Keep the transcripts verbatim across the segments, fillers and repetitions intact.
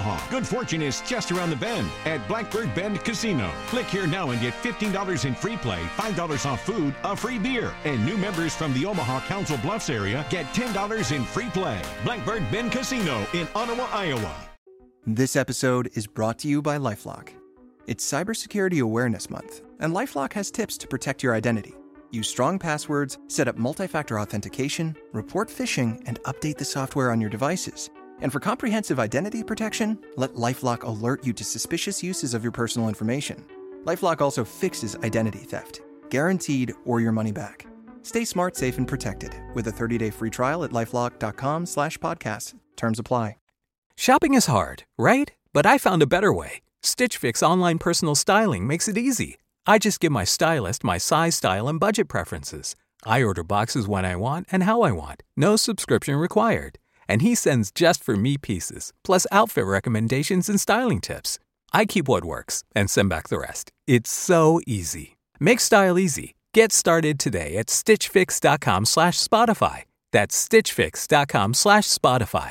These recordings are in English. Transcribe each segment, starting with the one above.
Omaha. Good fortune is just around the bend at Blackbird Bend Casino. Click here now and get fifteen dollars in free play, five dollars off food, a free beer. And new members from the Omaha Council Bluffs area get ten dollars in free play. Blackbird Bend Casino in Ottawa, Iowa. This episode is brought to you by LifeLock. It's Cybersecurity Awareness Month, and LifeLock has tips to protect your identity. Use strong passwords, set up multi-factor authentication, report phishing, and update the software on your devices. And for comprehensive identity protection, let LifeLock alert you to suspicious uses of your personal information. LifeLock also fixes identity theft, guaranteed or your money back. Stay smart, safe, and protected with a thirty-day free trial at LifeLock.com slash podcast. Terms apply. Shopping is hard, right? But I found a better way. Stitch Fix online personal styling makes it easy. I just give my stylist my size, style, and budget preferences. I order boxes when I want and how I want. No subscription required. And he sends just for me pieces, plus outfit recommendations and styling tips. I keep what works and send back the rest. It's so easy. Make style easy. Get started today at stitchfix.com slash Spotify. That's stitchfix.com slash Spotify.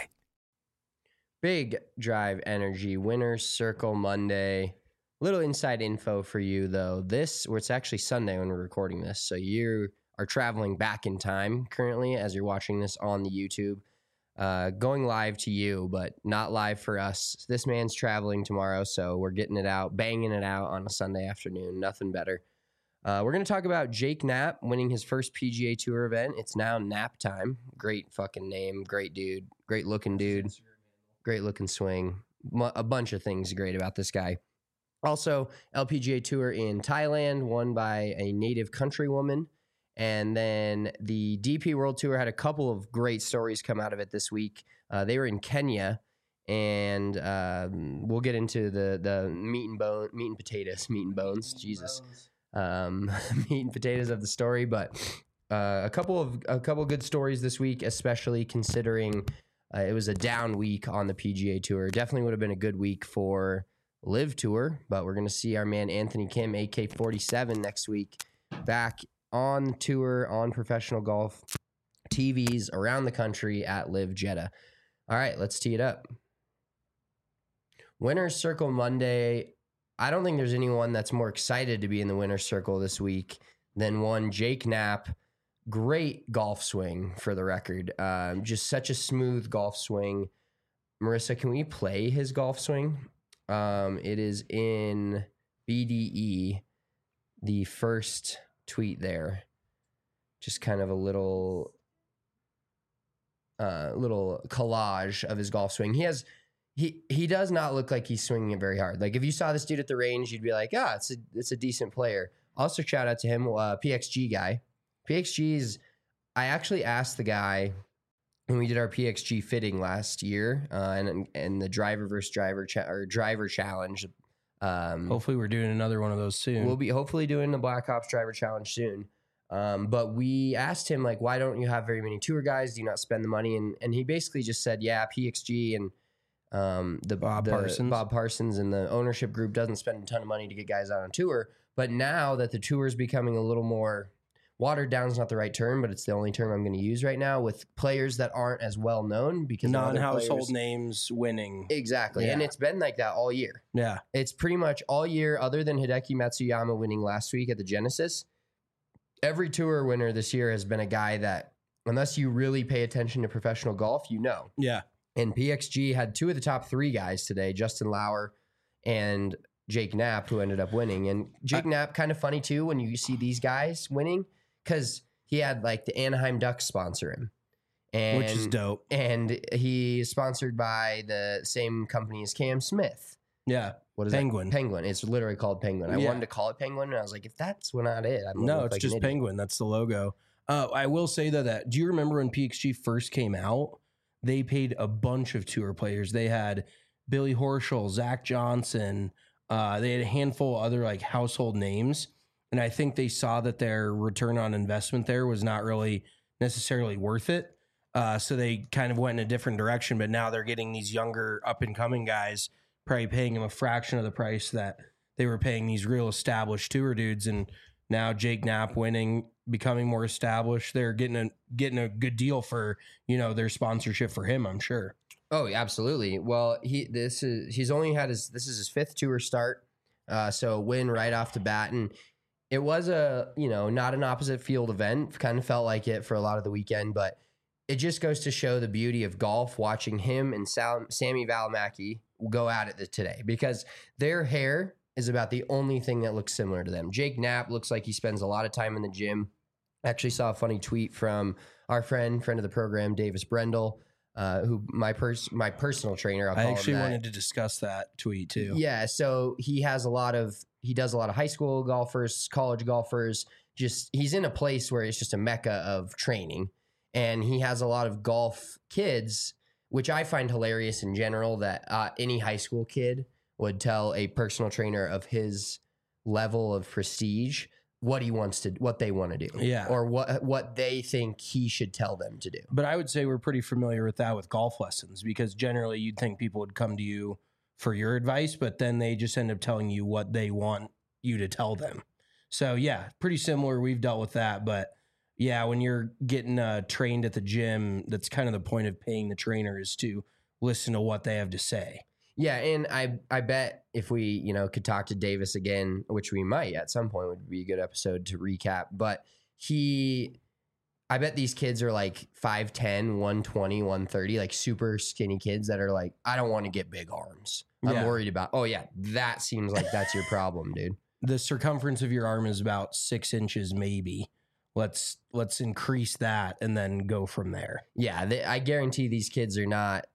Big Drive Energy Winner's Circle Monday. Little inside info for you, though. This, or it's actually Sunday when we're recording this, so you are traveling back in time currently as you're watching this on the YouTube. Uh, going live to you, but not live for us. This man's traveling tomorrow, so we're getting it out, banging it out on a Sunday afternoon. Nothing better. Uh, we're going to talk about Jake Knapp winning his first P G A Tour event. It's now Nap time. Great fucking name. Great dude. Great looking dude. Great looking swing. A bunch of things great about this guy. Also, L P G A Tour in Thailand, won by a native countrywoman. And then the D P World Tour had a couple of great stories come out of it this week. Uh, they were in Kenya, and um, we'll get into the the meat and bone, meat and potatoes, meat and bones. Meat Jesus, um, meat and potatoes of the story. But uh, a couple of a couple of good stories this week, especially considering uh, it was a down week on the P G A Tour. Definitely would have been a good week for Live Tour, but we're going to see our man Anthony Kim, A K forty-seven, next week back on tour, on professional golf T Vs around the country at Live Jeddah. All right, let's tee it up. Winner's Circle Monday. I don't think there's anyone that's more excited to be in the Winner's Circle this week than one Jake Knapp. Great golf swing, for the record. Um, just such a smooth golf swing. Marissa, can we play his golf swing? Um, it is in B D E, the first tweet there. Just kind of a little uh, little collage of his golf swing. He has he he does not look like he's swinging it very hard. Like if you saw this dude at the range, you'd be like, ah, it's a it's a decent player. Also, shout out to him, uh, P X G guy. P X G's. I actually asked the guy when we did our P X G fitting last year, uh, and and the driver versus driver cha- or driver challenge. Um, hopefully, we're doing another one of those soon. We'll be hopefully doing the Black Ops driver challenge soon. Um, but we asked him, like, why don't you have very many tour guys? Do you not spend the money? And and he basically just said, yeah, P X G and um, the Bob the, Parsons. Bob Parsons and the ownership group doesn't spend a ton of money to get guys out on tour. But now that the tour is becoming a little more watered down is not the right term, but it's the only term I'm going to use right now, with players that aren't as well known because non-household players, names winning. Exactly. Yeah. And it's been like that all year. Yeah. It's pretty much all year, other than Hideki Matsuyama winning last week at the Genesis. Every tour winner this year has been a guy that, unless you really pay attention to professional golf, you know. Yeah. And P X G had two of the top three guys today, Justin Lauer and Jake Knapp, who ended up winning. And Jake I, Knapp, kind of funny too, when you see these guys winning, because he had like the Anaheim Ducks sponsor him. And, which is dope. And he's sponsored by the same company as Cam Smith. Yeah. What is Penguin. That? Penguin. It's literally called Penguin. I yeah. wanted to call it Penguin, and I was like, if that's not it, I'm no, it's like just Penguin. That's the logo. Uh, I will say though that, do you remember when P X G first came out? They paid a bunch of tour players. They had Billy Horschel, Zach Johnson. Uh, they had a handful of other like household names. And I think they saw that their return on investment there was not really necessarily worth it. Uh, so they kind of went in a different direction. But now they're getting these younger up and coming guys, probably paying them a fraction of the price that they were paying these real established tour dudes. And now Jake Knapp winning, becoming more established. They're getting a getting a good deal for, you know, their sponsorship for him, I'm sure. Oh, absolutely. Well, he this is he's only had his this is his fifth tour start, uh, so win right off the bat, and it was a you know not an opposite field event. Kind of felt like it for a lot of the weekend, but it just goes to show the beauty of golf. Watching him and Sal, Sammy Valimaki go at it today, because their hair is about the only thing that looks similar to them. Jake Knapp looks like he spends a lot of time in the gym. I actually saw a funny tweet from our friend, friend of the program, Davis Brendel. Uh, who my pers- my personal trainer. I'll I call actually him that. wanted to discuss that tweet too. Yeah, so he has a lot of he does a lot of high school golfers, college golfers. Just he's in a place where it's just a mecca of training, and he has a lot of golf kids, which I find hilarious in general. That uh, any high school kid would tell a personal trainer of his level of prestige what he wants to, what they want to do, Yeah. or what what they think he should tell them to do. But I would say we're pretty familiar with that with golf lessons, because generally you'd think people would come to you for your advice, but then they just end up telling you what they want you to tell them. So yeah, pretty similar. We've dealt with that, but yeah, when you're getting uh, trained at the gym, that's kind of the point of paying the trainer, is to listen to what they have to say. Yeah, and I I bet if we, you know, could talk to Davis again, which we might at some point, would be a good episode to recap. But he, I bet these kids are like five ten, one twenty, one thirty, like super skinny kids that are like, I don't want to get big arms. I'm Yeah. worried about, oh yeah, that seems like that's your problem, dude. The circumference of your arm is about six inches, maybe. Let's let's increase that and then go from there. Yeah, they, I guarantee these kids are not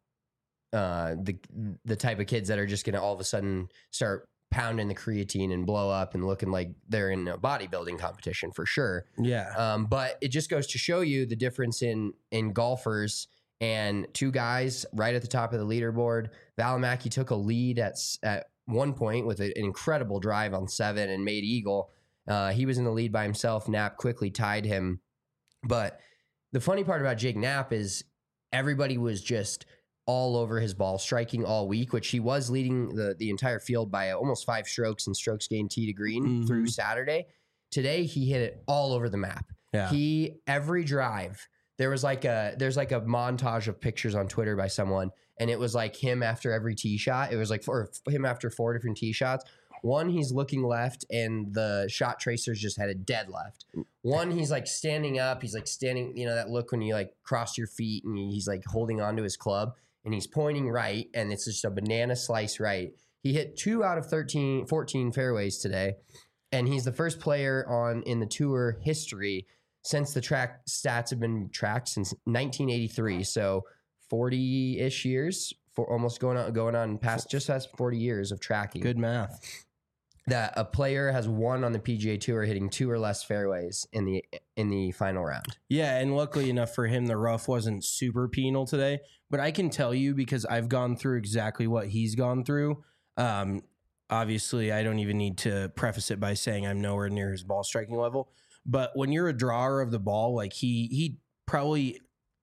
uh, the the type of kids that are just going to all of a sudden start pounding the creatine and blow up and looking like they're in a bodybuilding competition for sure. Yeah. Um, but it just goes to show you the difference in in golfers, and two guys right at the top of the leaderboard. Valimaki took a lead at at one point with a, an incredible drive on seven and made eagle. Uh, he was in the lead by himself. Knapp quickly tied him. But the funny part about Jake Knapp is everybody was just all over his ball striking all week, which he was leading the, the entire field by almost five strokes and strokes gained tee to green Mhm. through Saturday. Today, he hit it all over the map. Yeah. He, every drive, there was like a, there's like a montage of pictures on Twitter by someone, and it was like him after every tee shot. It was like for him after four different tee shots. One, he's looking left, and the shot tracers just had a dead left. One, he's like standing up. He's like standing, you know, that look when you like cross your feet and he's like holding onto his club, and he's pointing right, and it's just a banana slice right. He hit two out of thirteen, fourteen fairways today, and he's the first player on in the tour history since the track stats have been tracked since nineteen eighty-three. So forty-ish years, for almost going on going on past just past forty years of tracking. Good math. That a player has won on the P G A Tour hitting two or less fairways in the in the final round. Yeah, and luckily enough for him, the rough wasn't super penal today. But I can tell you, because I've gone through exactly what he's gone through. Um, obviously, I don't even need to preface it by saying I'm nowhere near his ball striking level. But when you're a drawer of the ball, like he he probably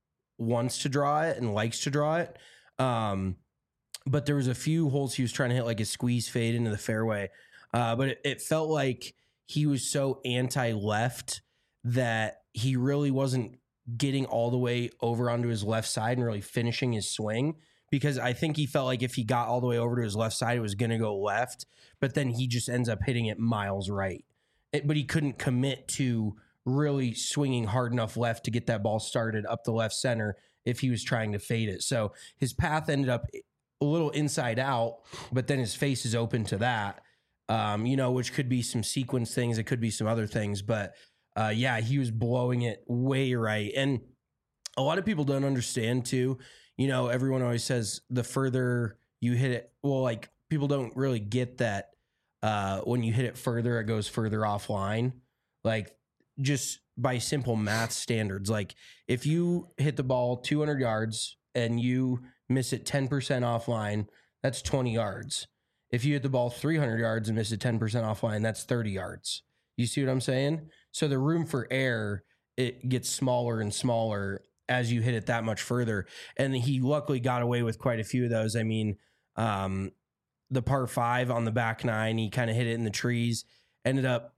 wants to draw it and likes to draw it. Um, but there was a few holes he was trying to hit like a squeeze fade into the fairway. Uh, but it, it felt like he was so anti-left that he really wasn't getting all the way over onto his left side and really finishing his swing, because I think he felt like if he got all the way over to his left side, it was going to go left, but then he just ends up hitting it miles right. It, but he couldn't commit to really swinging hard enough left to get that ball started up the left center if he was trying to fade it. So his path ended up a little inside out, but then his face is open to that. Um, you know, which could be some sequence things. It could be some other things, but uh, yeah, he was blowing it way right. And a lot of people don't understand too. You know, everyone always says the further you hit it, well, like people don't really get that uh, when you hit it further, it goes further offline. Like just by simple math standards, like if you hit the ball two hundred yards and you miss it ten percent offline, that's twenty yards. If you hit the ball three hundred yards and miss it ten percent offline, that's thirty yards. You see what I'm saying? So the room for error, it gets smaller and smaller as you hit it that much further. And he luckily got away with quite a few of those. I mean, um, the par five on the back nine, he kind of hit it in the trees, ended up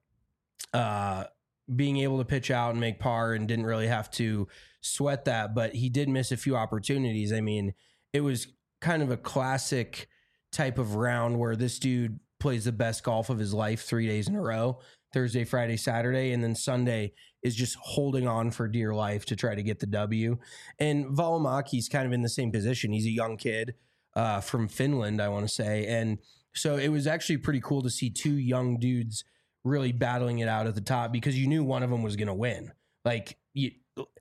uh, being able to pitch out and make par and didn't really have to sweat that. But he did miss a few opportunities. I mean, it was kind of a classic type of round where this dude plays the best golf of his life three days in a row, Thursday, Friday, Saturday, and then Sunday is just holding on for dear life to try to get the W. And Valimaki's kind of in the same position. He's a young kid uh, from Finland, I want to say. And so it was actually pretty cool to see two young dudes really battling it out at the top because you knew one of them was going to win. Like, you,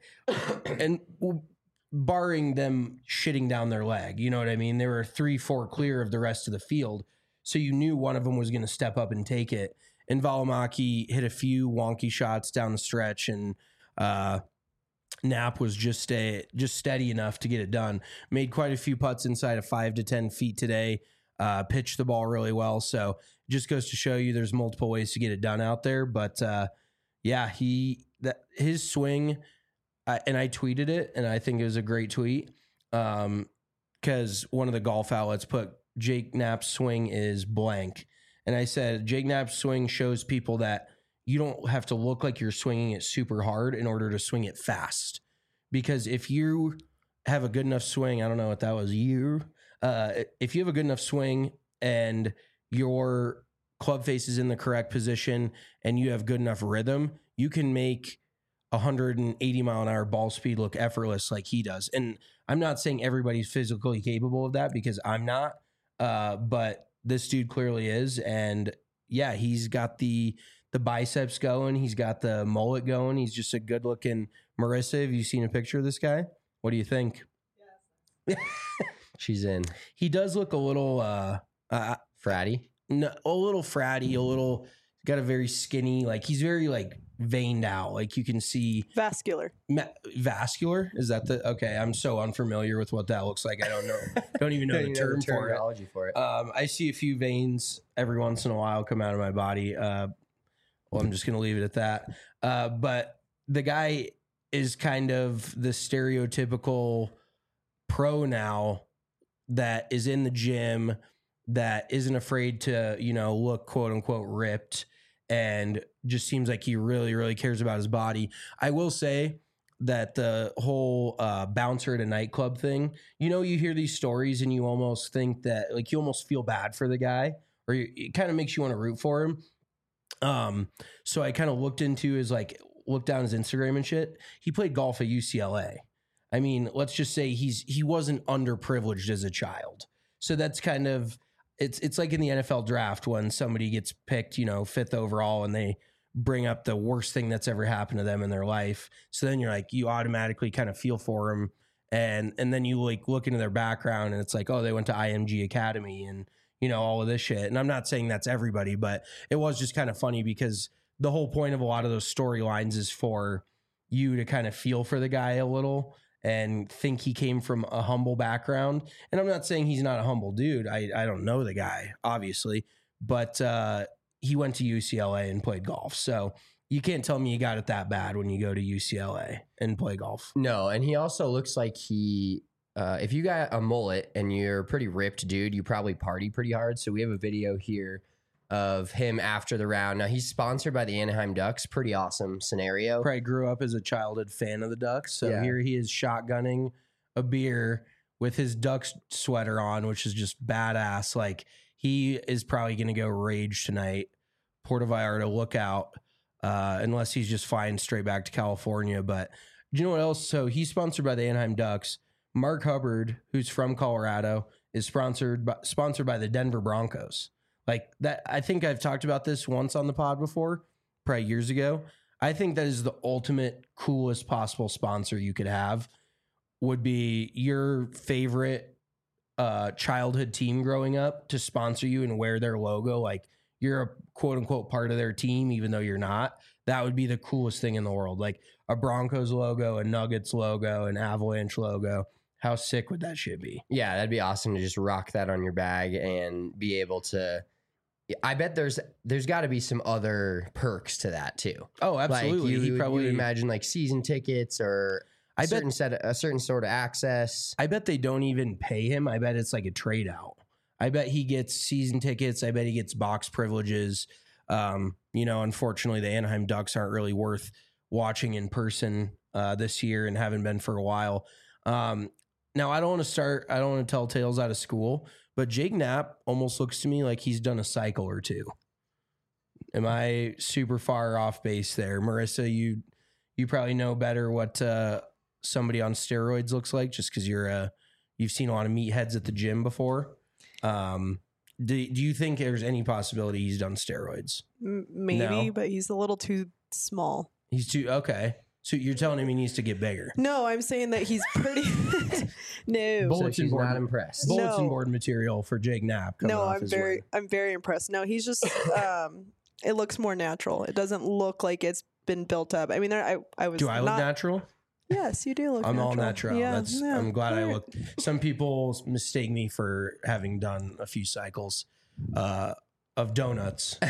and barring them shitting down their leg, you know what I mean? They were three, four clear of the rest of the field. So you knew one of them was going to step up and take it. And Valimaki hit a few wonky shots down the stretch, and uh, Knapp was just a, just steady enough to get it done. Made quite a few putts inside of five to ten feet today. Uh, pitched the ball really well. So it just goes to show you there's multiple ways to get it done out there. But uh, yeah, he that his swing, uh, and I tweeted it, and I think it was a great tweet because um, one of the golf outlets put Jake Knapp's swing is blank. And I said, Jake Knapp's swing shows people that you don't have to look like you're swinging it super hard in order to swing it fast. Because if you have a good enough swing, I don't know what that was, you, uh, if you have a good enough swing and your club face is in the correct position and you have good enough rhythm, you can make one hundred eighty mile an hour ball speed look effortless like he does. And I'm not saying everybody's physically capable of that because I'm not, uh, but this dude clearly is. And yeah, he's got the the biceps going. He's got the mullet going. He's just a good looking Marissa. Have you seen a picture of this guy? What do you think? Yes. She's in. He does look a little uh, uh fratty. No, a little fratty, a little got a very skinny, like he's very like veined out. Like you can see vascular. Ma- vascular? Is that the okay? I'm so unfamiliar with what that looks like. I don't know. Don't even know don't the even term know the for terminology it. for it. Um, I see a few veins every once in a while come out of my body. Uh, well, I'm just gonna leave it at that. Uh, but the guy is kind of the stereotypical pro now that is in the gym, that isn't afraid to, you know, look quote unquote ripped, and just seems like he really, really cares about his body. I will say that the whole uh, bouncer at a nightclub thing, you know, you hear these stories and you almost think that, like, you almost feel bad for the guy, or you, it kind of makes you want to root for him. Um, so I kind of looked into his, like, looked down his Instagram and shit. He played golf at U C L A. I mean, let's just say he's he wasn't underprivileged as a child. So that's kind of, it's it's like in the N F L draft when somebody gets picked, you know, fifth overall, and they bring up the worst thing that's ever happened to them in their life. So then you're like, you automatically kind of feel for them. And and then you like look into their background and it's like, oh, they went to I M G Academy and, you know, all of this shit. And I'm not saying that's everybody, but it was just kind of funny because the whole point of a lot of those storylines is for you to kind of feel for the guy a little and think he came from a humble background. And I'm not saying he's not a humble dude. I, I don't know the guy, obviously, but uh, he went to U C L A and played golf. So you can't tell me you got it that bad when you go to U C L A and play golf. No, and he also looks like he, uh, if you got a mullet and you're a pretty ripped dude, you probably party pretty hard. So we have a video here of him after the round. Now he's sponsored by the Anaheim Ducks. Pretty awesome scenario. Probably grew up as a childhood fan of the Ducks. So Yeah. here he is shotgunning a beer with his Ducks sweater on, which is just badass. Like he is probably going to go rage tonight. Puerto Vallarta, look out. Uh, unless he's just flying straight back to California. But do you know what else? So he's sponsored by the Anaheim Ducks. Mark Hubbard, who's from Colorado, is sponsored by, sponsored by the Denver Broncos. Like that, I think I've talked about this once on the pod before, probably years ago. I think that is the ultimate coolest possible sponsor you could have. Would be your favorite uh, childhood team growing up to sponsor you and wear their logo. Like you're a quote unquote part of their team, even though you're not. That would be the coolest thing in the world. Like a Broncos logo, a Nuggets logo, an Avalanche logo. How sick would that shit be? Yeah, that'd be awesome to just rock that on your bag and be able to. I bet there's there's got to be some other perks to that too. Oh, absolutely. Like you, he you probably would imagine like season tickets or a I certain bet set of, a certain sort of access. I bet they don't even pay him. I bet it's like a trade out. I bet he gets season tickets. I bet he gets box privileges. Um, you know, unfortunately, the Anaheim Ducks aren't really worth watching in person uh, this year and haven't been for a while. Um, Now, I don't want to start, I don't want to tell tales out of school, but Jake Knapp almost looks to me like he's done a cycle or two. Am I super far off base there? Marissa, you you probably know better what uh, somebody on steroids looks like just because you're uh, you've seen a lot of meatheads at the gym before. Um, do, do you think there's any possibility he's done steroids? M- maybe, No? but he's a little too small. He's too, okay. So you're telling him he needs to get bigger. No, I'm saying that he's pretty. no, Bull- So Bulletin she's board. not impressed. Bulletin No. board material for Jake Knapp. coming no, off I'm his very, win. I'm very impressed. No, he's just. um It looks more natural. It doesn't look like it's been built up. I mean, there, I, I was. Do I look not, natural? Yes, you do look. I'm natural. all natural. Yeah, That's. yeah. I'm glad I Alright. look. Some people mistake me for having done a few cycles uh, of donuts.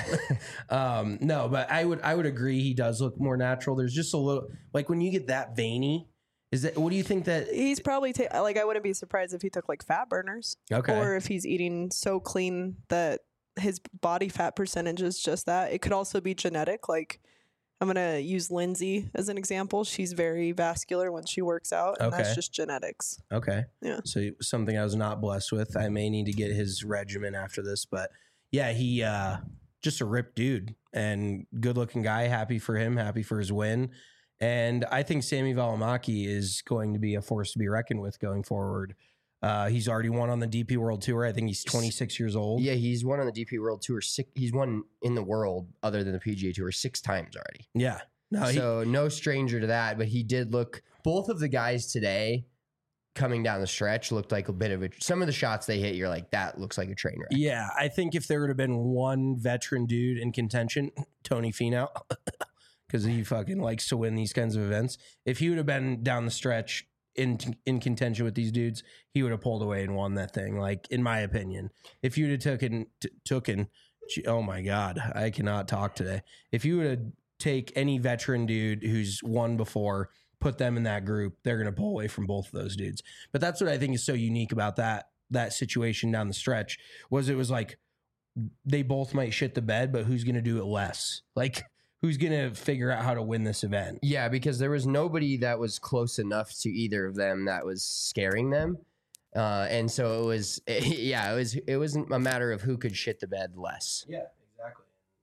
um, no, but I would. I would agree. He does look more natural. There's just a little like when you get that veiny. Is that what do you think that? He's probably ta- like I wouldn't be surprised if he took like fat burners, Okay. or if he's eating so clean that his body fat percentage is just that. It could also be genetic. Like I'm gonna use Lindsay as an example. She's very vascular when she works out, and Okay. that's just genetics. Okay. Yeah. So something I was not blessed with. I may need to get his regimen after this, but yeah, he uh just a ripped dude and good looking guy. Happy for him, happy for his win. And I think Sammy Valimaki is going to be a force to be reckoned with going forward. Uh, he's already won on the D P World Tour. I think he's twenty-six years old. Yeah, he's won on the D P World Tour. Six, he's won in the world other than the P G A Tour six times already. Yeah. No, he, So no stranger to that, but he did look. Both of the guys today coming down the stretch looked like a bit of a. Some of the shots they hit, you're like, that looks like a train wreck. yeah, I think if there would have been one veteran dude in contention, Tony Finau, because he fucking likes to win these kinds of events. If he would have been down the stretch in in contention with these dudes, he would have pulled away and won that thing. Like in my opinion, if you'd have taken t- taken, oh my god, I cannot talk today. If you would have take any veteran dude who's won before, put them in that group, they're gonna pull away from both of those dudes. But that's what I think is so unique about that that situation down the stretch was it was like they both might shit the bed, but who's gonna do it less? Like. Who's going to figure out how to win this event? Yeah, because there was nobody that was close enough to either of them that was scaring them, uh, and so it was. Yeah, it was. It wasn't a matter of who could shit the bed less. Yeah, exactly.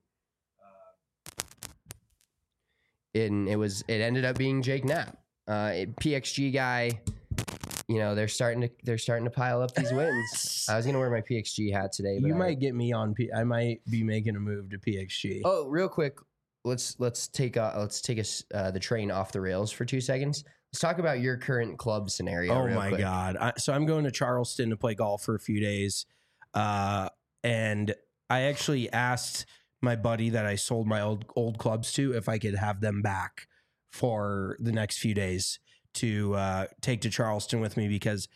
And it was. It ended up being Jake Knapp, uh, it- P X G guy. You know, they're starting to they're starting to pile up these wins. I was gonna wear my P X G hat today, but You I- might get me on P. I might be making a move to P X G. Oh, real quick, let's let's take uh, let's take us uh, the train off the rails for two seconds. Let's talk about your current club scenario. Oh real my quick. god! I, so I'm going to Charleston to play golf for a few days, uh, and I actually asked my buddy that I sold my old old clubs to if I could have them back for the next few days to uh, take to Charleston with me because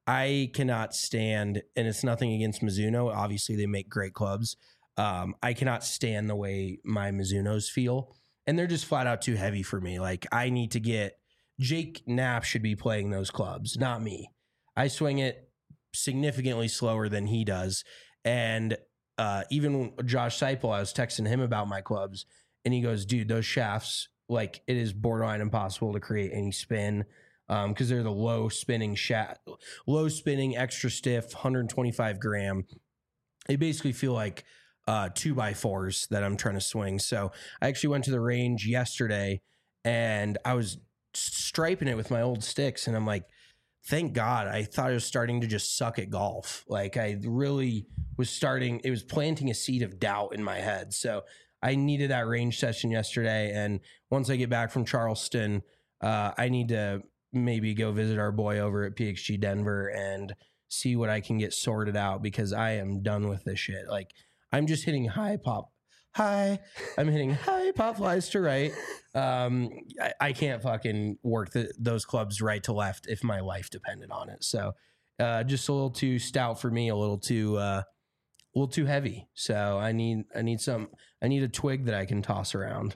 I cannot stand, and it's nothing against Mizuno. Obviously, they make great clubs. Um, I cannot stand the way my Mizunos feel, and they're just flat out too heavy for me. Like I need to get Jake Knapp should be playing those clubs, not me. I swing it significantly slower than he does, and uh, even Josh Seipel, I was texting him about my clubs, and he goes, "Dude, those shafts, like it is borderline impossible to create any spin." Um, because they're the low spinning shaft, low spinning, extra stiff, one hundred twenty-five gram. They basically feel like uh, two by fours that I'm trying to swing. So I actually went to the range yesterday and I was striping it with my old sticks. And I'm like, thank God. I thought I was starting to just suck at golf. Like I really was starting, it was planting a seed of doubt in my head. So I needed that range session yesterday. And once I get back from Charleston, uh, I need to maybe go visit our boy over at P X G Denver and see what I can get sorted out because I am done with this shit. Like I'm just hitting high pop, high. I'm hitting high pop flies to right. Um, I, I can't fucking work the, those clubs right to left if my life depended on it. So uh, just a little too stout for me, a little too, uh, a little too heavy. So I need, I need some, I need a twig that I can toss around.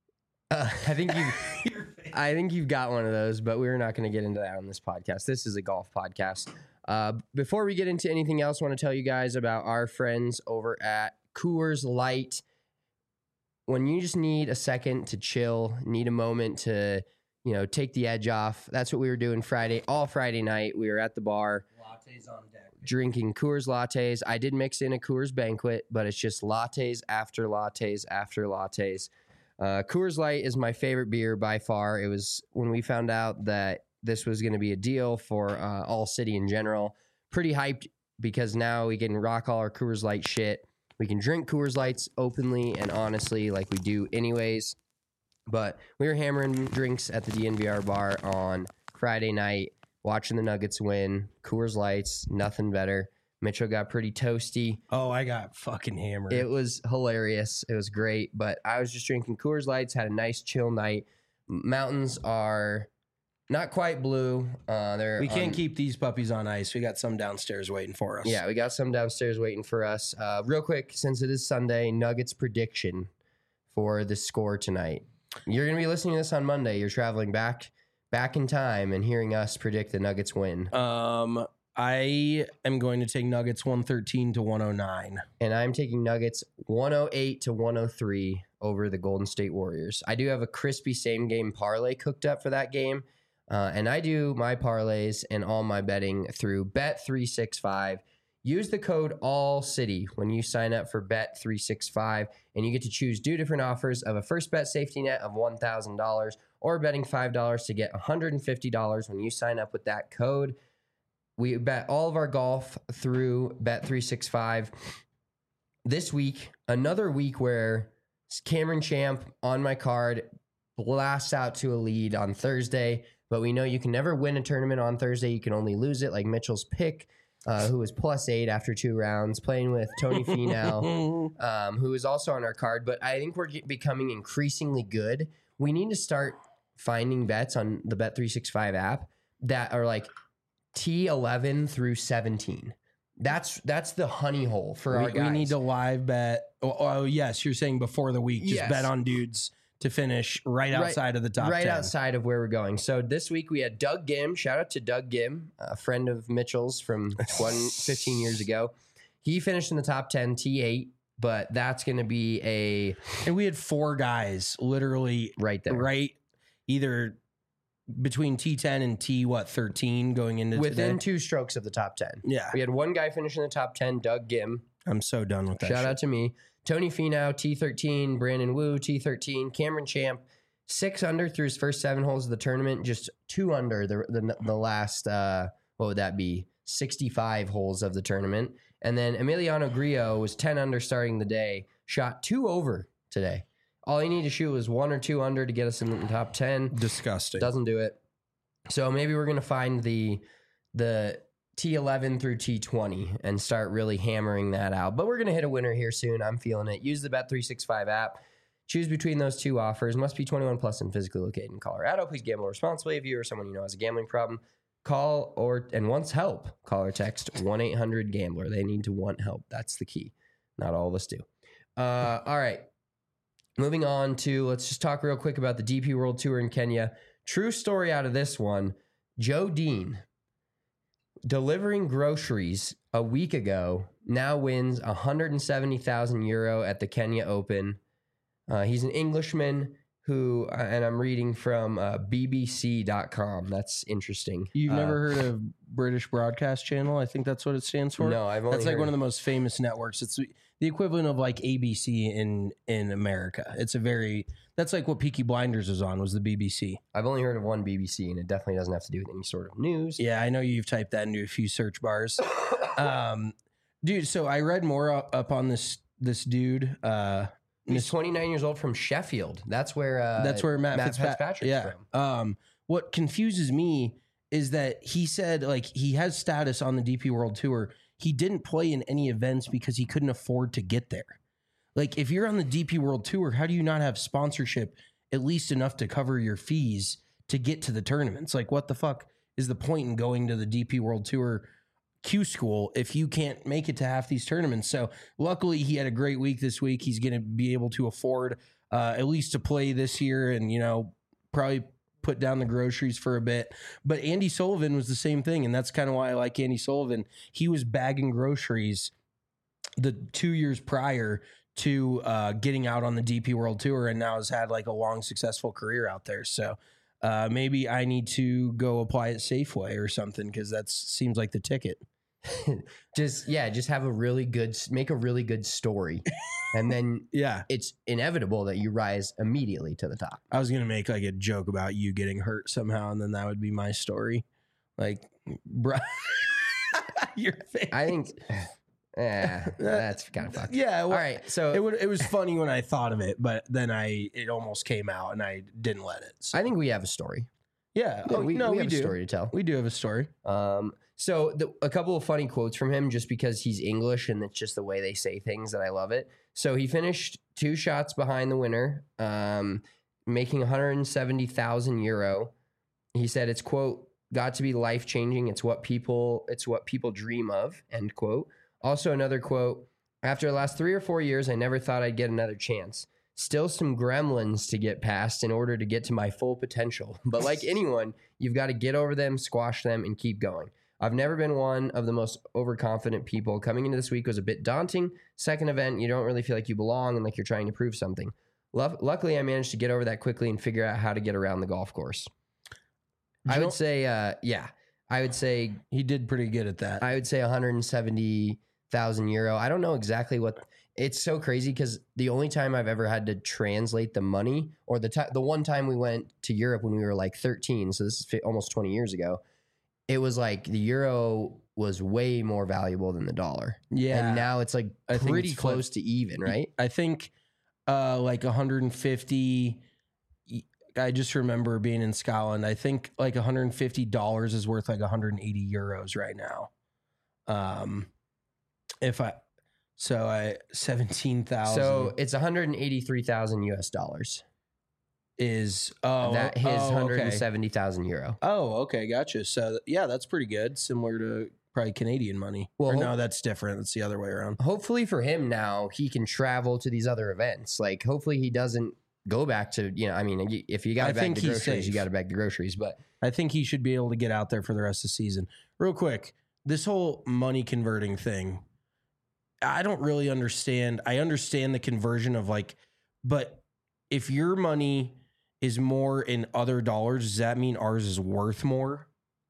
Uh, I think you, I think you've got one of those, but we're not going to get into that on this podcast. This is a golf podcast. Uh, before we get into anything else, I want to tell you guys about our friends over at Coors Light. When you just need a second to chill, need a moment to you know, take the edge off. That's what we were doing Friday, all Friday night. We were at the bar. Lattes on deck. Drinking Coors lattes. I did mix in a Coors Banquet, but it's just lattes after lattes after lattes. Uh, Coors Light is my favorite beer by far. It was when we found out that this was going to be a deal for uh, All City in general. Pretty hyped because now we can rock all our Coors Light shit. We can drink Coors Lights openly and honestly like we do anyways. But we were hammering drinks at the D N V R bar on Friday night, watching the Nuggets win. Coors Lights, nothing better. Mitchell got pretty toasty. Oh, I got fucking hammered. It was hilarious. It was great. But I was just drinking Coors Lights, had a nice chill night. Mountains are not quite blue. Uh, they're we can't on, keep these puppies on ice. We got some downstairs waiting for us. Yeah, we got some downstairs waiting for us. Uh, real quick, since it is Sunday, Nuggets prediction for the score tonight. You're going to be listening to this on Monday. You're traveling back back in time and hearing us predict the Nuggets win. Um, I am going to take Nuggets one thirteen to one oh nine. And I'm taking Nuggets one oh eight to one oh three over the Golden State Warriors. I do have a crispy same game parlay cooked up for that game. Uh, and I do my parlays and all my betting through Bet three sixty-five. Use the code ALLCITY when you sign up for Bet three sixty-five, and you get to choose two different offers of a first bet safety net of one thousand dollars or betting five dollars to get one hundred fifty dollars when you sign up with that code. We bet all of our golf through Bet three sixty-five. This week, another week where Cameron Champ on my card blasts out to a lead on Thursday, but we know you can never win a tournament on Thursday. You can only lose it, like Mitchell's pick. Uh, who was plus eight after two rounds, playing with Tony Finau, um, who is also on our card. But I think we're get, becoming increasingly good. We need to start finding bets on the Bet three sixty-five app that are like T eleven through seventeen. That's that's the honey hole for we, our guys. We need to live bet. Oh, oh, yes, you're saying before the week, just Yes. bet on dudes to finish right outside right, of the top right ten. outside of where we're going. So this week we had Doug Gim. Shout out to Doug Gim, a friend of Mitchell's from twenty, fifteen years ago. He finished in the top ten, T eight, but that's going to be a And we had four guys literally right there. right either between T ten and T what thirteen going into Within today. two strokes of the top ten. Yeah, We had one guy finish in the top ten, Doug Gim. I'm so done with that. Shout shit. out to me. Tony Finau, T thirteen. Brandon Wu, T thirteen. Cameron Champ, six under through his first seven holes of the tournament. Just two under the the, the last, uh, what would that be? sixty-five holes of the tournament. And then Emiliano Grillo was ten under starting the day. Shot two over today. All he needed to shoot was one or two under to get us in the top ten. Disgusting. Doesn't do it. So maybe we're going to find the the T eleven through T twenty and start really hammering that out. But we're going to hit a winner here soon. I'm feeling it. Use the Bet three sixty-five app. Choose between those two offers. Must be twenty-one plus and physically located in Colorado. Please gamble responsibly. If you or someone you know has a gambling problem, call or and wants help, call or text one eight hundred gambler. They need to want help. That's the key. Not all of us do. Uh, all right. Moving on to, let's just talk real quick about the D P World Tour in Kenya. True story out of this one. Joe Dean, delivering groceries a week ago, now wins one hundred seventy thousand euro at the Kenya Open. Uh, he's an Englishman who, uh, and I'm reading from uh, B B C dot com. That's interesting. You've Uh, never heard of British Broadcast Channel? I think that's what it stands for. No, I've only That's like heard- one of the most famous networks. It's the equivalent of like A B C in in America. It's a very that's like what Peaky Blinders was on was the B B C. I've only heard of one B B C, and it definitely doesn't have to do with any sort of news. Yeah, I know you've typed that into a few search bars. um, dude, so I read more up, up on this this dude. Uh, He's twenty-nine years old from Sheffield. That's where uh, That's where Matt, Matt Fitzpa- Fitzpatrick's yeah. from. Um, what confuses me is that he said like he has status on the D P World Tour. He didn't play in any events because he couldn't afford to get there. Like if you're on the D P World Tour, how do you not have sponsorship at least enough to cover your fees to get to the tournaments? Like what the fuck is the point in going to the D P World Tour Q school if you can't make it to half these tournaments? So luckily he had a great week this week. He's going to be able to afford uh, at least to play this year and, you know, probably put down the groceries for a bit. But Andy Sullivan was the same thing. And that's kind of why I like Andy Sullivan. He was bagging groceries the two years prior to uh, getting out on the D P World Tour and now has had like a long, successful career out there. So uh, maybe I need to go apply at Safeway or something because that seems like the ticket. just yeah, just have a really good, make a really good story, and then Yeah. it's inevitable that you rise immediately to the top. I was going to make like a joke about you getting hurt somehow, and then that would be my story. Like, bro, your face. I think, yeah, that's kind of fucked. Yeah. Well, All right, so It would. It was funny when I thought of it, but then I it almost came out, and I didn't let it. So. I think we have a story. Yeah. Yeah, Oh, we, no, we we, have do. a story to tell. We do have a story. Um, so the, a couple of funny quotes from him, just because he's English and it's just the way they say things that I love it. So he finished two shots behind the winner, um, making one hundred seventy thousand euro. He said, "It's quote got to be life changing. It's what people it's what people dream of." End quote. Also another quote: "After the last three or four years, I never thought I'd get another chance. Still some gremlins to get past in order to get to my full potential. But like anyone, you've got to get over them, squash them, and keep going. I've never been one of the most overconfident people. Coming into this week was a bit daunting. Second event, you don't really feel like you belong and like you're trying to prove something. Lu- Luckily, I managed to get over that quickly and figure out how to get around the golf course." I would say, uh, yeah, I would say He did pretty good at that. I would say one hundred seventy thousand euro. I don't know exactly what. It's so crazy because the only time I've ever had to translate the money, or the ti- the one time we went to Europe when we were like thirteen, so this is fi- almost twenty years ago, it was like the euro was way more valuable than the dollar. yeah. And now it's like I think pretty it's flipped. close to even, right? I think uh, like one hundred fifty. I just remember being in Scotland. I think like one hundred fifty dollars is worth like one hundred eighty euros right now. Um, if I so I seventeen thousand. So it's one hundred eighty-three thousand U S dollars. is oh that his oh, one hundred okay. seventy thousand euro. Oh, okay, gotcha. So yeah, that's pretty good. Similar to probably Canadian money. Well, Or ho- no, that's different. That's the other way around. Hopefully for him now, he can travel to these other events. Like hopefully he doesn't go back to, you know, I mean, y- if you got I to bag think the he's groceries, you safe. got to bag the groceries. But I think he should be able to get out there for the rest of the season. Real quick, this whole money converting thing, I don't really understand. I understand the conversion of like, but if your money is more in other dollars, does that mean ours is worth more?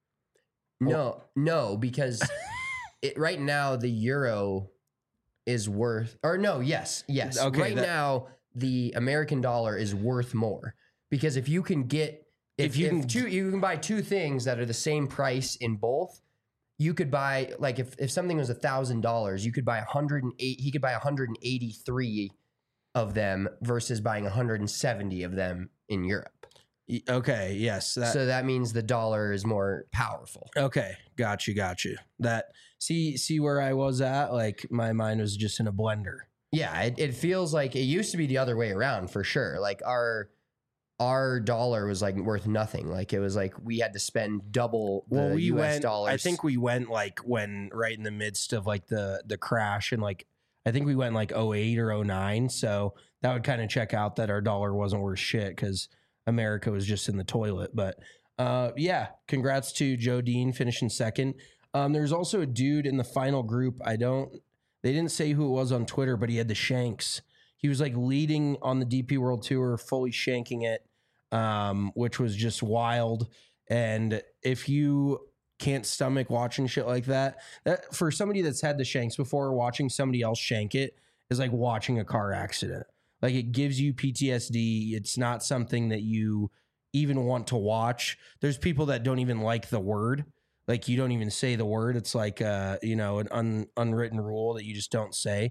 no, no, because it, right now the euro is worth, or no, yes, yes. Okay, right that- now the American dollar is worth more because if you can get, if, If you if can- two, you can buy two things that are the same price in both. You could buy like if, if something was a thousand dollars, you could buy a hundred and eight. He could buy a hundred and eighty three of them versus buying a hundred and seventy of them in Europe. Y- Okay, yes. That, so that means the dollar is more powerful. okay, got you, got you. That see see where I was at. Like my mind was just in a blender. Yeah, it, it feels like it used to be the other way around for sure. Like our our dollar was like worth nothing. Like it was like we had to spend double the Well, we U S went. dollars. I think we went like when right in the midst of like the the crash and like I think we went like oh eight or oh nine. So that would kind of check out that our dollar wasn't worth shit because America was just in the toilet. But uh, yeah, congrats to Joe Dean finishing second. Um, there's also a dude in the final group. I don't. They didn't say who it was on Twitter, but he had the shanks. He was like leading on the D P World Tour, fully shanking it, um, which was just wild. And if you can't stomach watching shit like that, that for somebody that's had the shanks before, watching somebody else shank it is like watching a car accident. Like it gives you P T S D. It's not something that you even want to watch. There's people that don't even like the word. Like you don't even say the word. It's like uh, you know, an un, unwritten rule that you just don't say.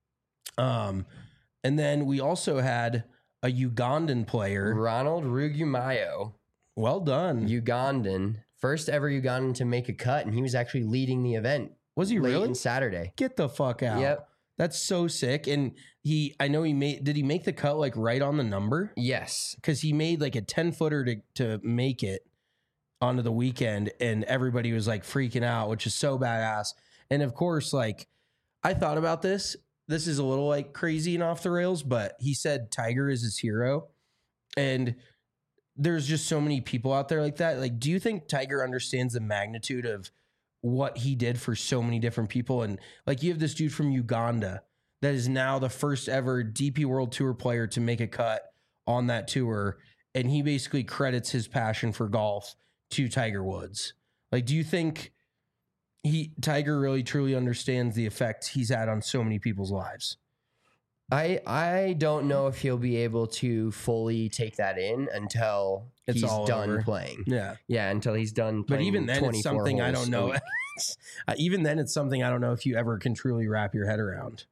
Um, and then we also had a Ugandan player. Ronald Rugumayo, Well done. Ugandan, first ever Ugandan to make a cut, and he was actually leading the event. Was he late really? in Saturday. Get the fuck out. Yep. That's so sick. And he, I know he made, did he make the cut like right on the number? Yes. Because he made like a ten footer to, to make it onto the weekend. And everybody was like freaking out, which is so badass. And of course, like I thought about this. This is a little like crazy and off the rails, but he said Tiger is his hero. And there's just so many people out there like that. Like, do you think Tiger understands the magnitude of what he did for so many different people? And like, you have this dude from Uganda that is now the first ever D P World Tour player to make a cut on that tour. and he basically credits his passion for golf to Tiger Woods. Like, do you think he Tiger really truly understands the effect he's had on so many people's lives? I I don't know if he'll be able to fully take that in until It's he's all done over. playing. Yeah. Yeah, until he's done But playing. even then, it's twenty-four something I holes don't a know. week. uh, even then, it's something I don't know if you ever can truly wrap your head around.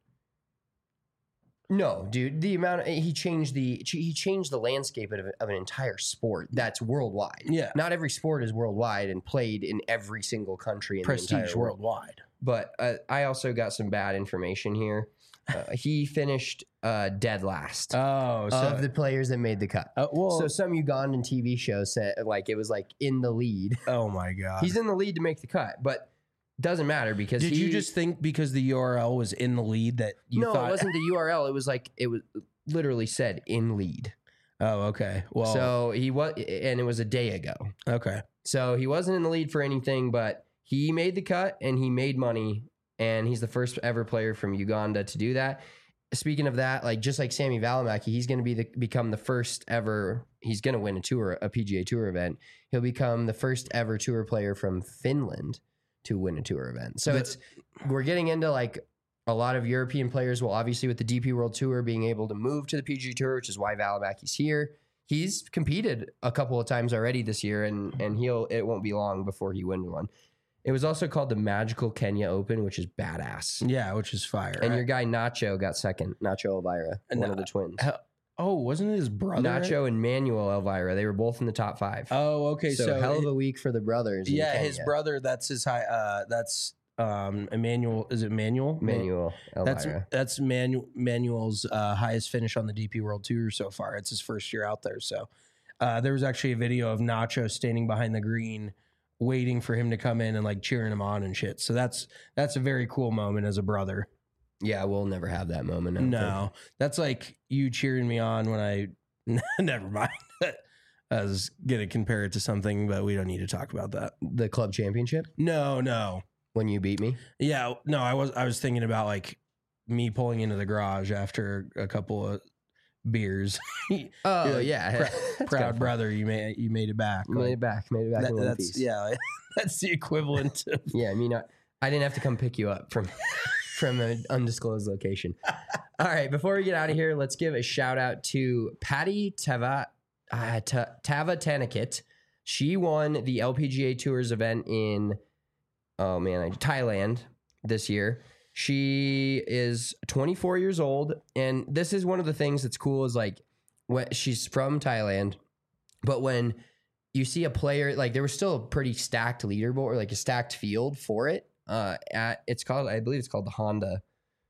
No, dude, the amount of, he changed the he changed the landscape of, of an entire sport that's worldwide. Yeah. Not every sport is worldwide and played in every single country in the Prestige entire world. worldwide. But uh, I also got some bad information here. Uh, he finished uh, dead last Oh, so of the players that made the cut. uh, well, So some Ugandan T V show said like it was like in the lead. oh my god, He's in the lead to make the cut, but doesn't matter because Did he, you just think because the U R L was in the lead that you no, thought? it wasn't the U R L. It was like it was literally said in lead. Oh, okay. Well, So he was, and it was a day ago. okay. So he wasn't in the lead for anything, but he made the cut and he made money, and he's the first ever player from Uganda to do that. Speaking of that, like just like Sammy Valimaki, he's going to be the become the first ever. He's going to win a tour, a P G A Tour event. He'll become the first ever tour player from Finland to win a tour event. So The- it's we're getting into like a lot of European players. Will obviously with the D P World Tour being able to move to the P G A Tour, which is why Valimaki's here. He's competed a couple of times already this year, and and he'll it won't be long before he wins one. It was also called the Magical Kenya Open, which is badass. Yeah, which is fire. And I- your guy Nacho got second. Nacho Elvira, And, one of uh, the twins. oh, wasn't it his brother? Nacho and Manuel Elvira. They were both in the top five. Oh, okay. so, So, hell of it- a week for the brothers. in yeah, his Kenya. brother. That's his high. Uh, that's um, Emmanuel. Is it Manuel? Manuel That's Elvira. that's Manu- Manuel's uh, highest finish on the D P World Tour so far. It's his first year out there. So uh, there was actually a video of Nacho standing behind the green, waiting for him to come in and like cheering him on and shit. So that's that's a very cool moment as a brother. Yeah, we'll never have that moment. I don't No, that's like you cheering me on when I. Never mind. I was gonna compare it to something, but we don't need to talk about that. think. The club championship No, no. when you beat me. Yeah, no. I was I was thinking about like me pulling into the garage after a couple of beers. Oh You're like, yeah, Prou- That's proud kinda brother, you made you made it back. fun. Made Like, it back. Made it back that- in one that's piece. yeah, that's the equivalent of Yeah, I mean, I, I didn't have to come pick you up from from an undisclosed location. All right, before we get out of here, let's give a shout out to Patty Tava uh, Ta- Tava Tanakit. She won the L P G A Tours event in oh man, I- Thailand this year. She is twenty-four years old, and this is one of the things that's cool is like when she's from Thailand, but when you see a player like there was still a pretty stacked leaderboard or like a stacked field for it. Uh, at it's called I believe it's called the Honda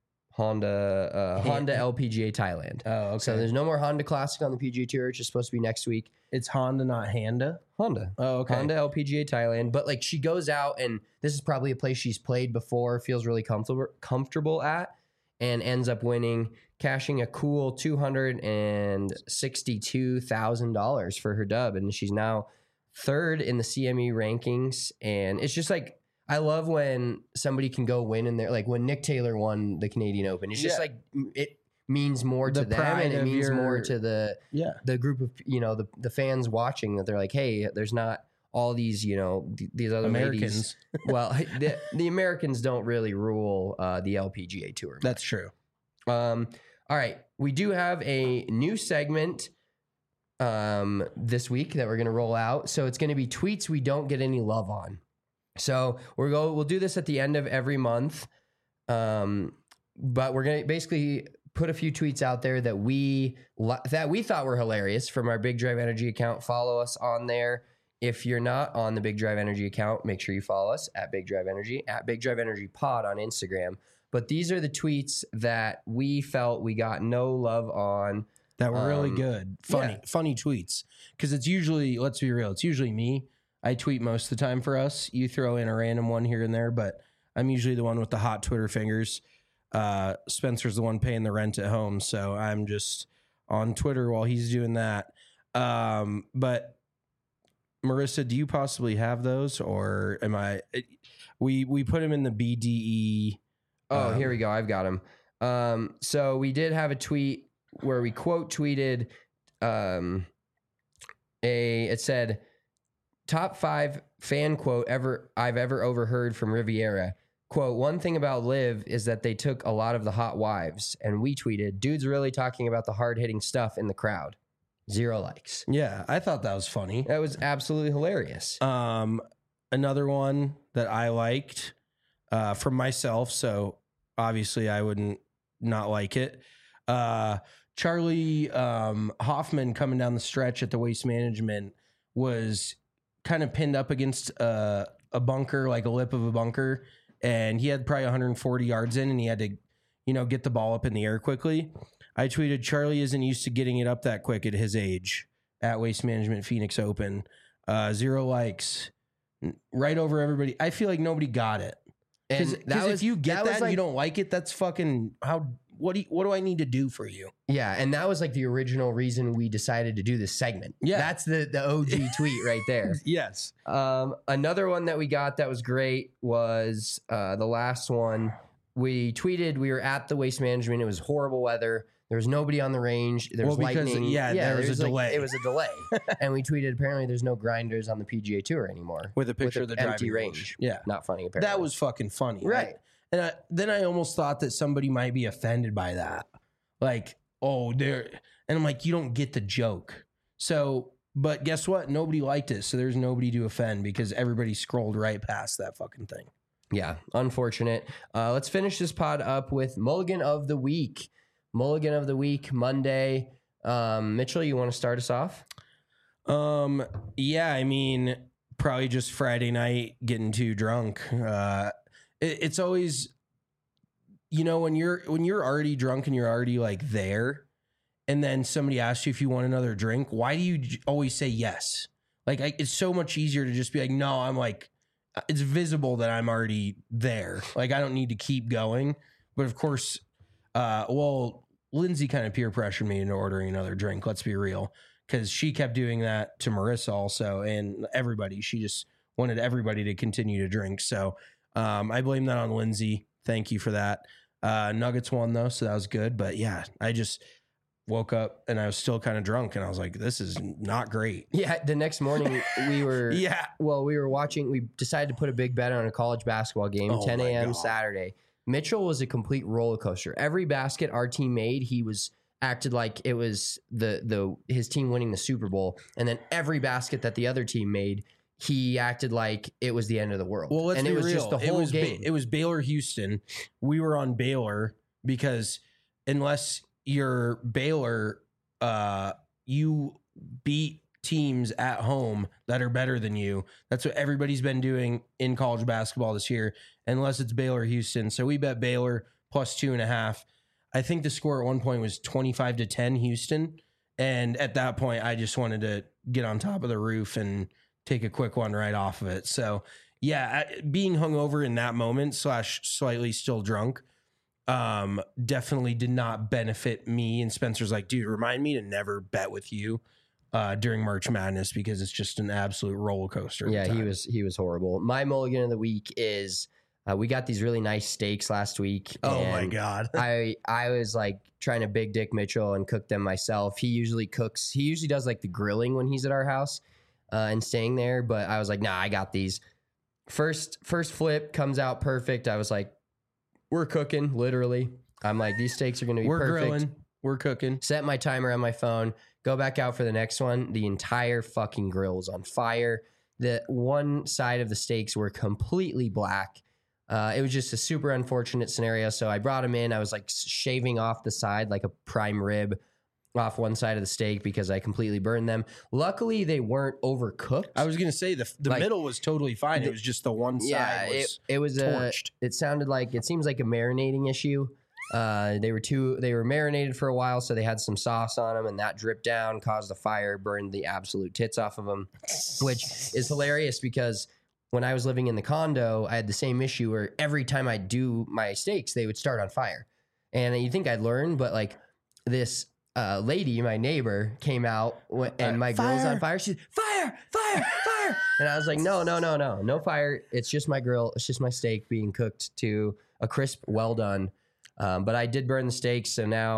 Honda uh, Honda L P G A Thailand. oh okay. So there's no more Honda Classic on the P G A Tour, which is supposed to be next week. It's Honda, not Handa. Honda. Oh okay. Honda L P G A Thailand. But like she goes out and this is probably a place she's played before, feels really comfortable comfortable at, and ends up winning, cashing a cool two hundred and sixty-two thousand dollars for her dub. And she's now third in the C M E rankings. And it's just like I love when somebody can go win in there. Like when Nick Taylor won the Canadian Open. It's just Yeah. like it means more to The them pride and it of means more your- to the Yeah. the group of you know the the fans watching that they're like, hey, there's not all these you know th- these other ladies. Americans. Well, the, the Americans don't really rule uh, the L P G A Tour. That's true. Um, all right, we do have a new segment um, this week that we're going to roll out. So it's going to be tweets we don't get any love on. So we're go we'll do this at the end of every month, um, but we're going to basically put a few tweets out there that we li- that we thought were hilarious from our Big Drive Energy account. Follow us on there. If you're not on the Big Drive Energy account, make sure you follow us at Big Drive Energy, at Big Drive Energy Pod on Instagram. But these are the tweets that we felt we got no love on. That were really Um, good. Funny, yeah. funny tweets. Because it's usually, let's be real, it's usually me. I tweet most of the time for us. You throw in a random one here and there, but I'm usually the one with the hot Twitter fingers. Uh, Spencer's the one paying the rent at home, so I'm just on Twitter while he's doing that. Um, but Marissa, do you possibly have those, or am I? We we put him in the B D E. Oh, um, here we go. I've got him. Um, so we did have a tweet where we quote tweeted um, a it said top five fan quote ever I've ever overheard from Riviera. Quote, one thing about Liv is that they took a lot of the hot wives. And we tweeted, dude's really talking about the hard-hitting stuff in the crowd. Zero likes. Yeah, I thought that was funny. That was absolutely hilarious. Um, another one that I liked uh, from myself, so obviously I wouldn't not like it. Uh, Charlie um, Hoffman coming down the stretch at the Waste Management was kind of pinned up against uh, a bunker, like a lip of a bunker, and he had probably one hundred forty yards in, and he had to, you know, get the ball up in the air quickly. I tweeted, Charlie isn't used to getting it up that quick at his age at Waste Management Phoenix Open. Uh, zero likes, right over everybody. I feel like nobody got it. Because if you get that, that and like, you don't like it, that's fucking how. What do you, what do I need to do for you? Yeah, and that was like the original reason we decided to do this segment. Yeah, that's the the O G tweet right there. Yes. Um, another one that we got that was great was uh, the last one. We tweeted we were at the Waste Management. It was horrible weather. There was nobody on the range. There was well, because, lightning. Yeah, yeah, there was, was a like, delay. It was a delay, and we tweeted apparently there's no grinders on the P G A Tour anymore with a picture with of the empty range. range. Yeah, not funny. Apparently, that was fucking funny, right? I, and I, then I almost thought that somebody might be offended by that, like. Oh, there. And I'm like, you don't get the joke. So, but guess what? Nobody liked it. So there's nobody to offend because everybody scrolled right past that fucking thing. Yeah, unfortunate. Uh, let's finish this pod up with Mulligan of the Week. Mulligan of the Week, Monday. Um, Mitchell, you want to start us off? Um, yeah, I mean, probably just Friday night getting too drunk. Uh, it, it's always... You know, when you're when you're already drunk and you're already like there, and then somebody asks you if you want another drink, why do you j- always say yes? Like, I, it's so much easier to just be like, no, I'm like, it's visible that I'm already there. Like, I don't need to keep going. But of course, uh, well, Lindsay kind of peer pressured me into ordering another drink. Let's be real, because she kept doing that to Marissa also and everybody. She just wanted everybody to continue to drink. So um, I blame that on Lindsay. Thank you for that. Uh, Nuggets won though, so that was good. But yeah, I just woke up and I was still kind of drunk, and I was like, "This is not great." Yeah. The next morning we were, yeah. Well, we were watching. We decided to put a big bet on a college basketball game, oh ten a.m. Saturday. Mitchell was a complete roller coaster. Every basket our team made, he was acted like it was the the his team winning the Super Bowl, and then every basket that the other team made, he acted like it was the end of the world. Well, let's and be it was real. just the whole it was game. Ba- it was Baylor Houston. We were on Baylor because unless you're Baylor, uh, you beat teams at home that are better than you. That's what everybody's been doing in college basketball this year, unless it's Baylor Houston. So we bet Baylor plus two and a half. I think the score at one point was twenty-five to ten Houston. And at that point, I just wanted to get on top of the roof and take a quick one right off of it. So yeah, being hungover in that moment slash slightly still drunk, um, definitely did not benefit me. And Spencer's like, dude, remind me to never bet with you uh, during March Madness because it's just an absolute roller coaster. Yeah, he was he was horrible. My mulligan of the week is uh, we got these really nice steaks last week. Oh my God. I I was like trying to big dick Mitchell and cook them myself. He usually cooks. He usually does like the grilling when he's at our house. Uh, and staying there, but I was like, nah, I got these. First, first flip comes out perfect. I was like, we're cooking, literally. I'm like, these steaks are going to be we're perfect. Grilling. We're cooking. Set my timer on my phone. Go back out for the next one. The entire fucking grill was on fire. The one side of the steaks were completely black. Uh, it was just a super unfortunate scenario. So I brought them in. I was like shaving off the side like a prime rib off one side of the steak because I completely burned them. Luckily, they weren't overcooked. I was going to say the the like, middle was totally fine. The, it was just the one yeah, side was it, it was torched. A, it sounded like, it seems like a marinating issue. Uh, they were too, they were marinated for a while, so they had some sauce on them, and that dripped down, caused a fire, burned the absolute tits off of them, which is hilarious because when I was living in the condo, I had the same issue where every time I do my steaks, they would start on fire. And you'd think I'd learn, but like this uh, lady, my neighbor, came out w- and my fire. grill's on fire. She's fire, fire, fire. And I was like, no, no, no, no, no fire. It's just my grill. It's just my steak being cooked to a crisp, well done. Um, but I did burn the steaks, so now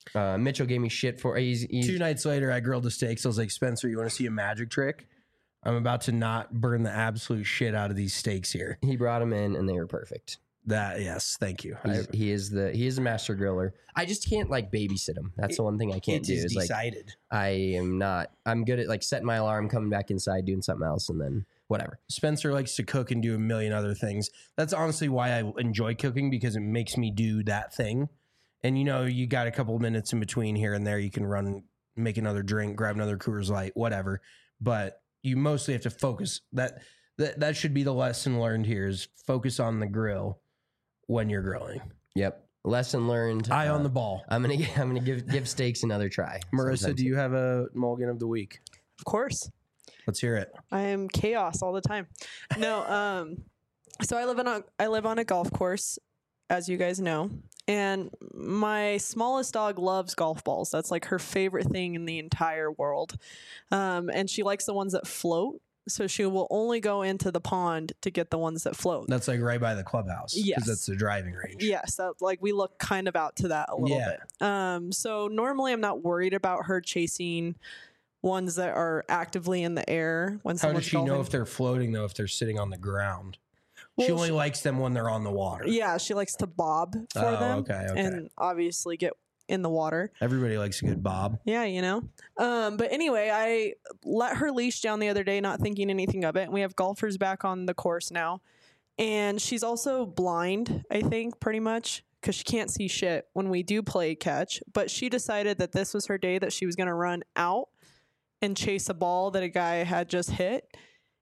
Uh, Mitchell gave me shit for he's, he's Two nights later, I grilled the steaks. I was like, Spencer, you want to see a magic trick? I'm about to not burn the absolute shit out of these steaks here. he brought them in and they were perfect. That yes, thank you. I, He's, he is the he is a master griller. I just can't like babysit him. That's the one thing I can't it do. is Is like decided. I am not. I'm good at like setting my alarm, coming back inside, doing something else, and then whatever. Spencer likes to cook and do a million other things. That's honestly why I enjoy cooking, because it makes me do that thing. And you know, you got a couple minutes in between here and there. You can run, make another drink, grab another Coors Light, whatever. But you mostly have to focus. That that that should be the lesson learned here: is focus on the grill when you're grilling. Yep. Lesson learned. Eye uh, on the ball. I'm gonna I'm gonna give give steaks another try. Marissa, sometime do you have a mulligan of the week? Of course. Let's hear it. I am chaos all the time. No, um, so I live on a I live on a golf course, as you guys know, and my smallest dog loves golf balls. That's like her favorite thing in the entire world, um, and she likes the ones that float. So she will only go into the pond to get the ones that float. That's like right by the clubhouse. Yes. That's the driving range. Yes, that, like we look kind of out to that a little Yeah. bit. Um, so normally I'm not worried about her chasing ones that are actively in the air when How someone's does she know golfing. if they're floating though, if they're sitting on the ground? she Well, only she- likes them when they're on the water. Yeah, she likes to bob for Oh, them okay, okay. and obviously get in the water. Everybody likes a good bob. Yeah, you know. Um, but anyway, I let her leash down the other day, not thinking anything of it. And we have golfers back on the course now. And she's also blind, I think, pretty much, because she can't see shit when we do play catch. But she decided that this was her day that she was going to run out and chase a ball that a guy had just hit.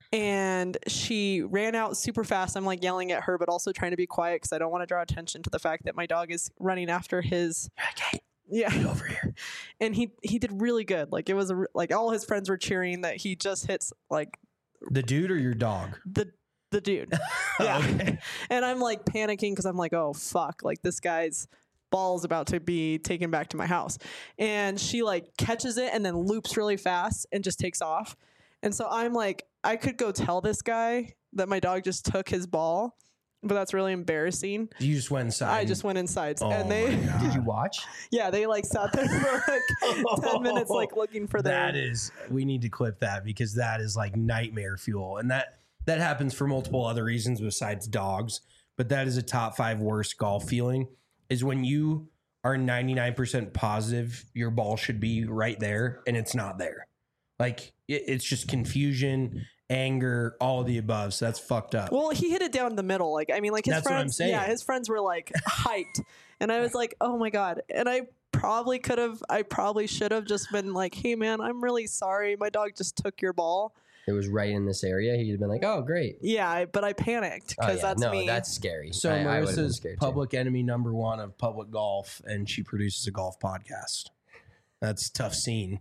And she ran out super fast. I'm like yelling at her, but also trying to be quiet because I don't want to draw attention to the fact that my dog is running after his. Yeah. Get over here. And he he did really good. Like it was a, like all his friends were cheering that he just hits like The dude or your dog? the the dude. Yeah. Okay. And I'm like panicking because I'm like, oh fuck, like this guy's ball is about to be taken back to my house. And she like catches it and then loops really fast and just takes off. And so I'm like, I could go tell this guy that my dog just took his ball, but that's really embarrassing. You just went inside. I just went inside Oh and they my God. Did you watch? yeah, they like sat there for like ten minutes like looking for their That is, we need to clip that because that is like nightmare fuel. And that that happens for multiple other reasons besides dogs. But that is a top five worst golf feeling is when you are ninety-nine percent positive your ball should be right there and it's not there. Like it, it's just confusion, anger, all of the above. So that's fucked up. Well, he hit it down the middle. Like, I mean, like his That's what I'm friends, saying. yeah, his friends were like hyped. And I was like, oh my God. And I probably could have, I probably should have just been like, hey man, I'm really sorry. My dog just took your ball. It was right in this area. He'd have been like, "Oh, great." Yeah, I, but I panicked Oh, because yeah. that's no, me. that's scary. So I, I would've been Marissa's scared too. public enemy number one of public golf, and she produces a golf podcast. That's a tough scene.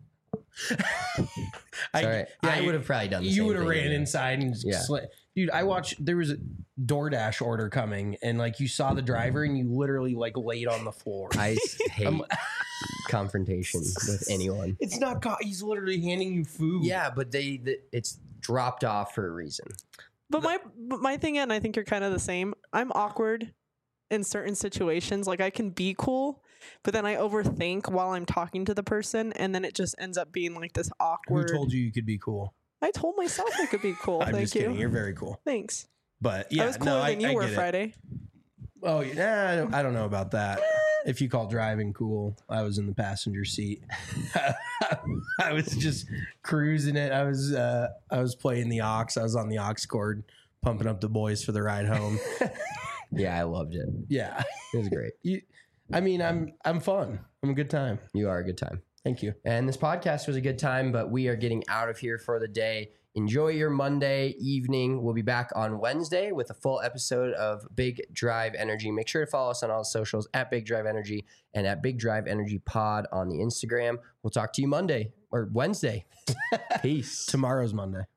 Sorry, I would have probably done the You same would have thing, ran yeah. inside and just Yeah. sli- dude. I watched. There was a DoorDash order coming, and like you saw the driver, and you literally like laid on the floor. I hate confrontation with anyone. It's not. co- He's literally handing you food. Yeah, but they the, it's dropped off for a reason. but my, but my thing, and I think you're kind of the same. I'm awkward in certain situations. Like I can be cool, but then I overthink while I'm talking to the person, and then it just ends up being like this Who awkward. told you you could be cool? I told myself I could be cool. I'm Thank just you. kidding. You're very cool. Thanks. But yeah, I was cooler no, than I, you I were get it. Friday. Oh, yeah, I don't, I don't know about that. If you call driving cool, I was in the passenger seat. I was just cruising it. I was uh, I was playing the aux. I was on the aux cord, pumping up the boys for the ride home. Yeah, I loved it. Yeah, It was great. you. I mean, I'm I'm fun. I'm a good time. You are a good time. Thank you. And this podcast was a good time, but we are getting out of here for the day. Enjoy your Monday evening. We'll be back on Wednesday with a full episode of Big Drive Energy. Make sure to follow us on all the socials at Big Drive Energy and at Big Drive Energy Pod on the Instagram. We'll talk to you Monday or Wednesday. Peace. Tomorrow's Monday.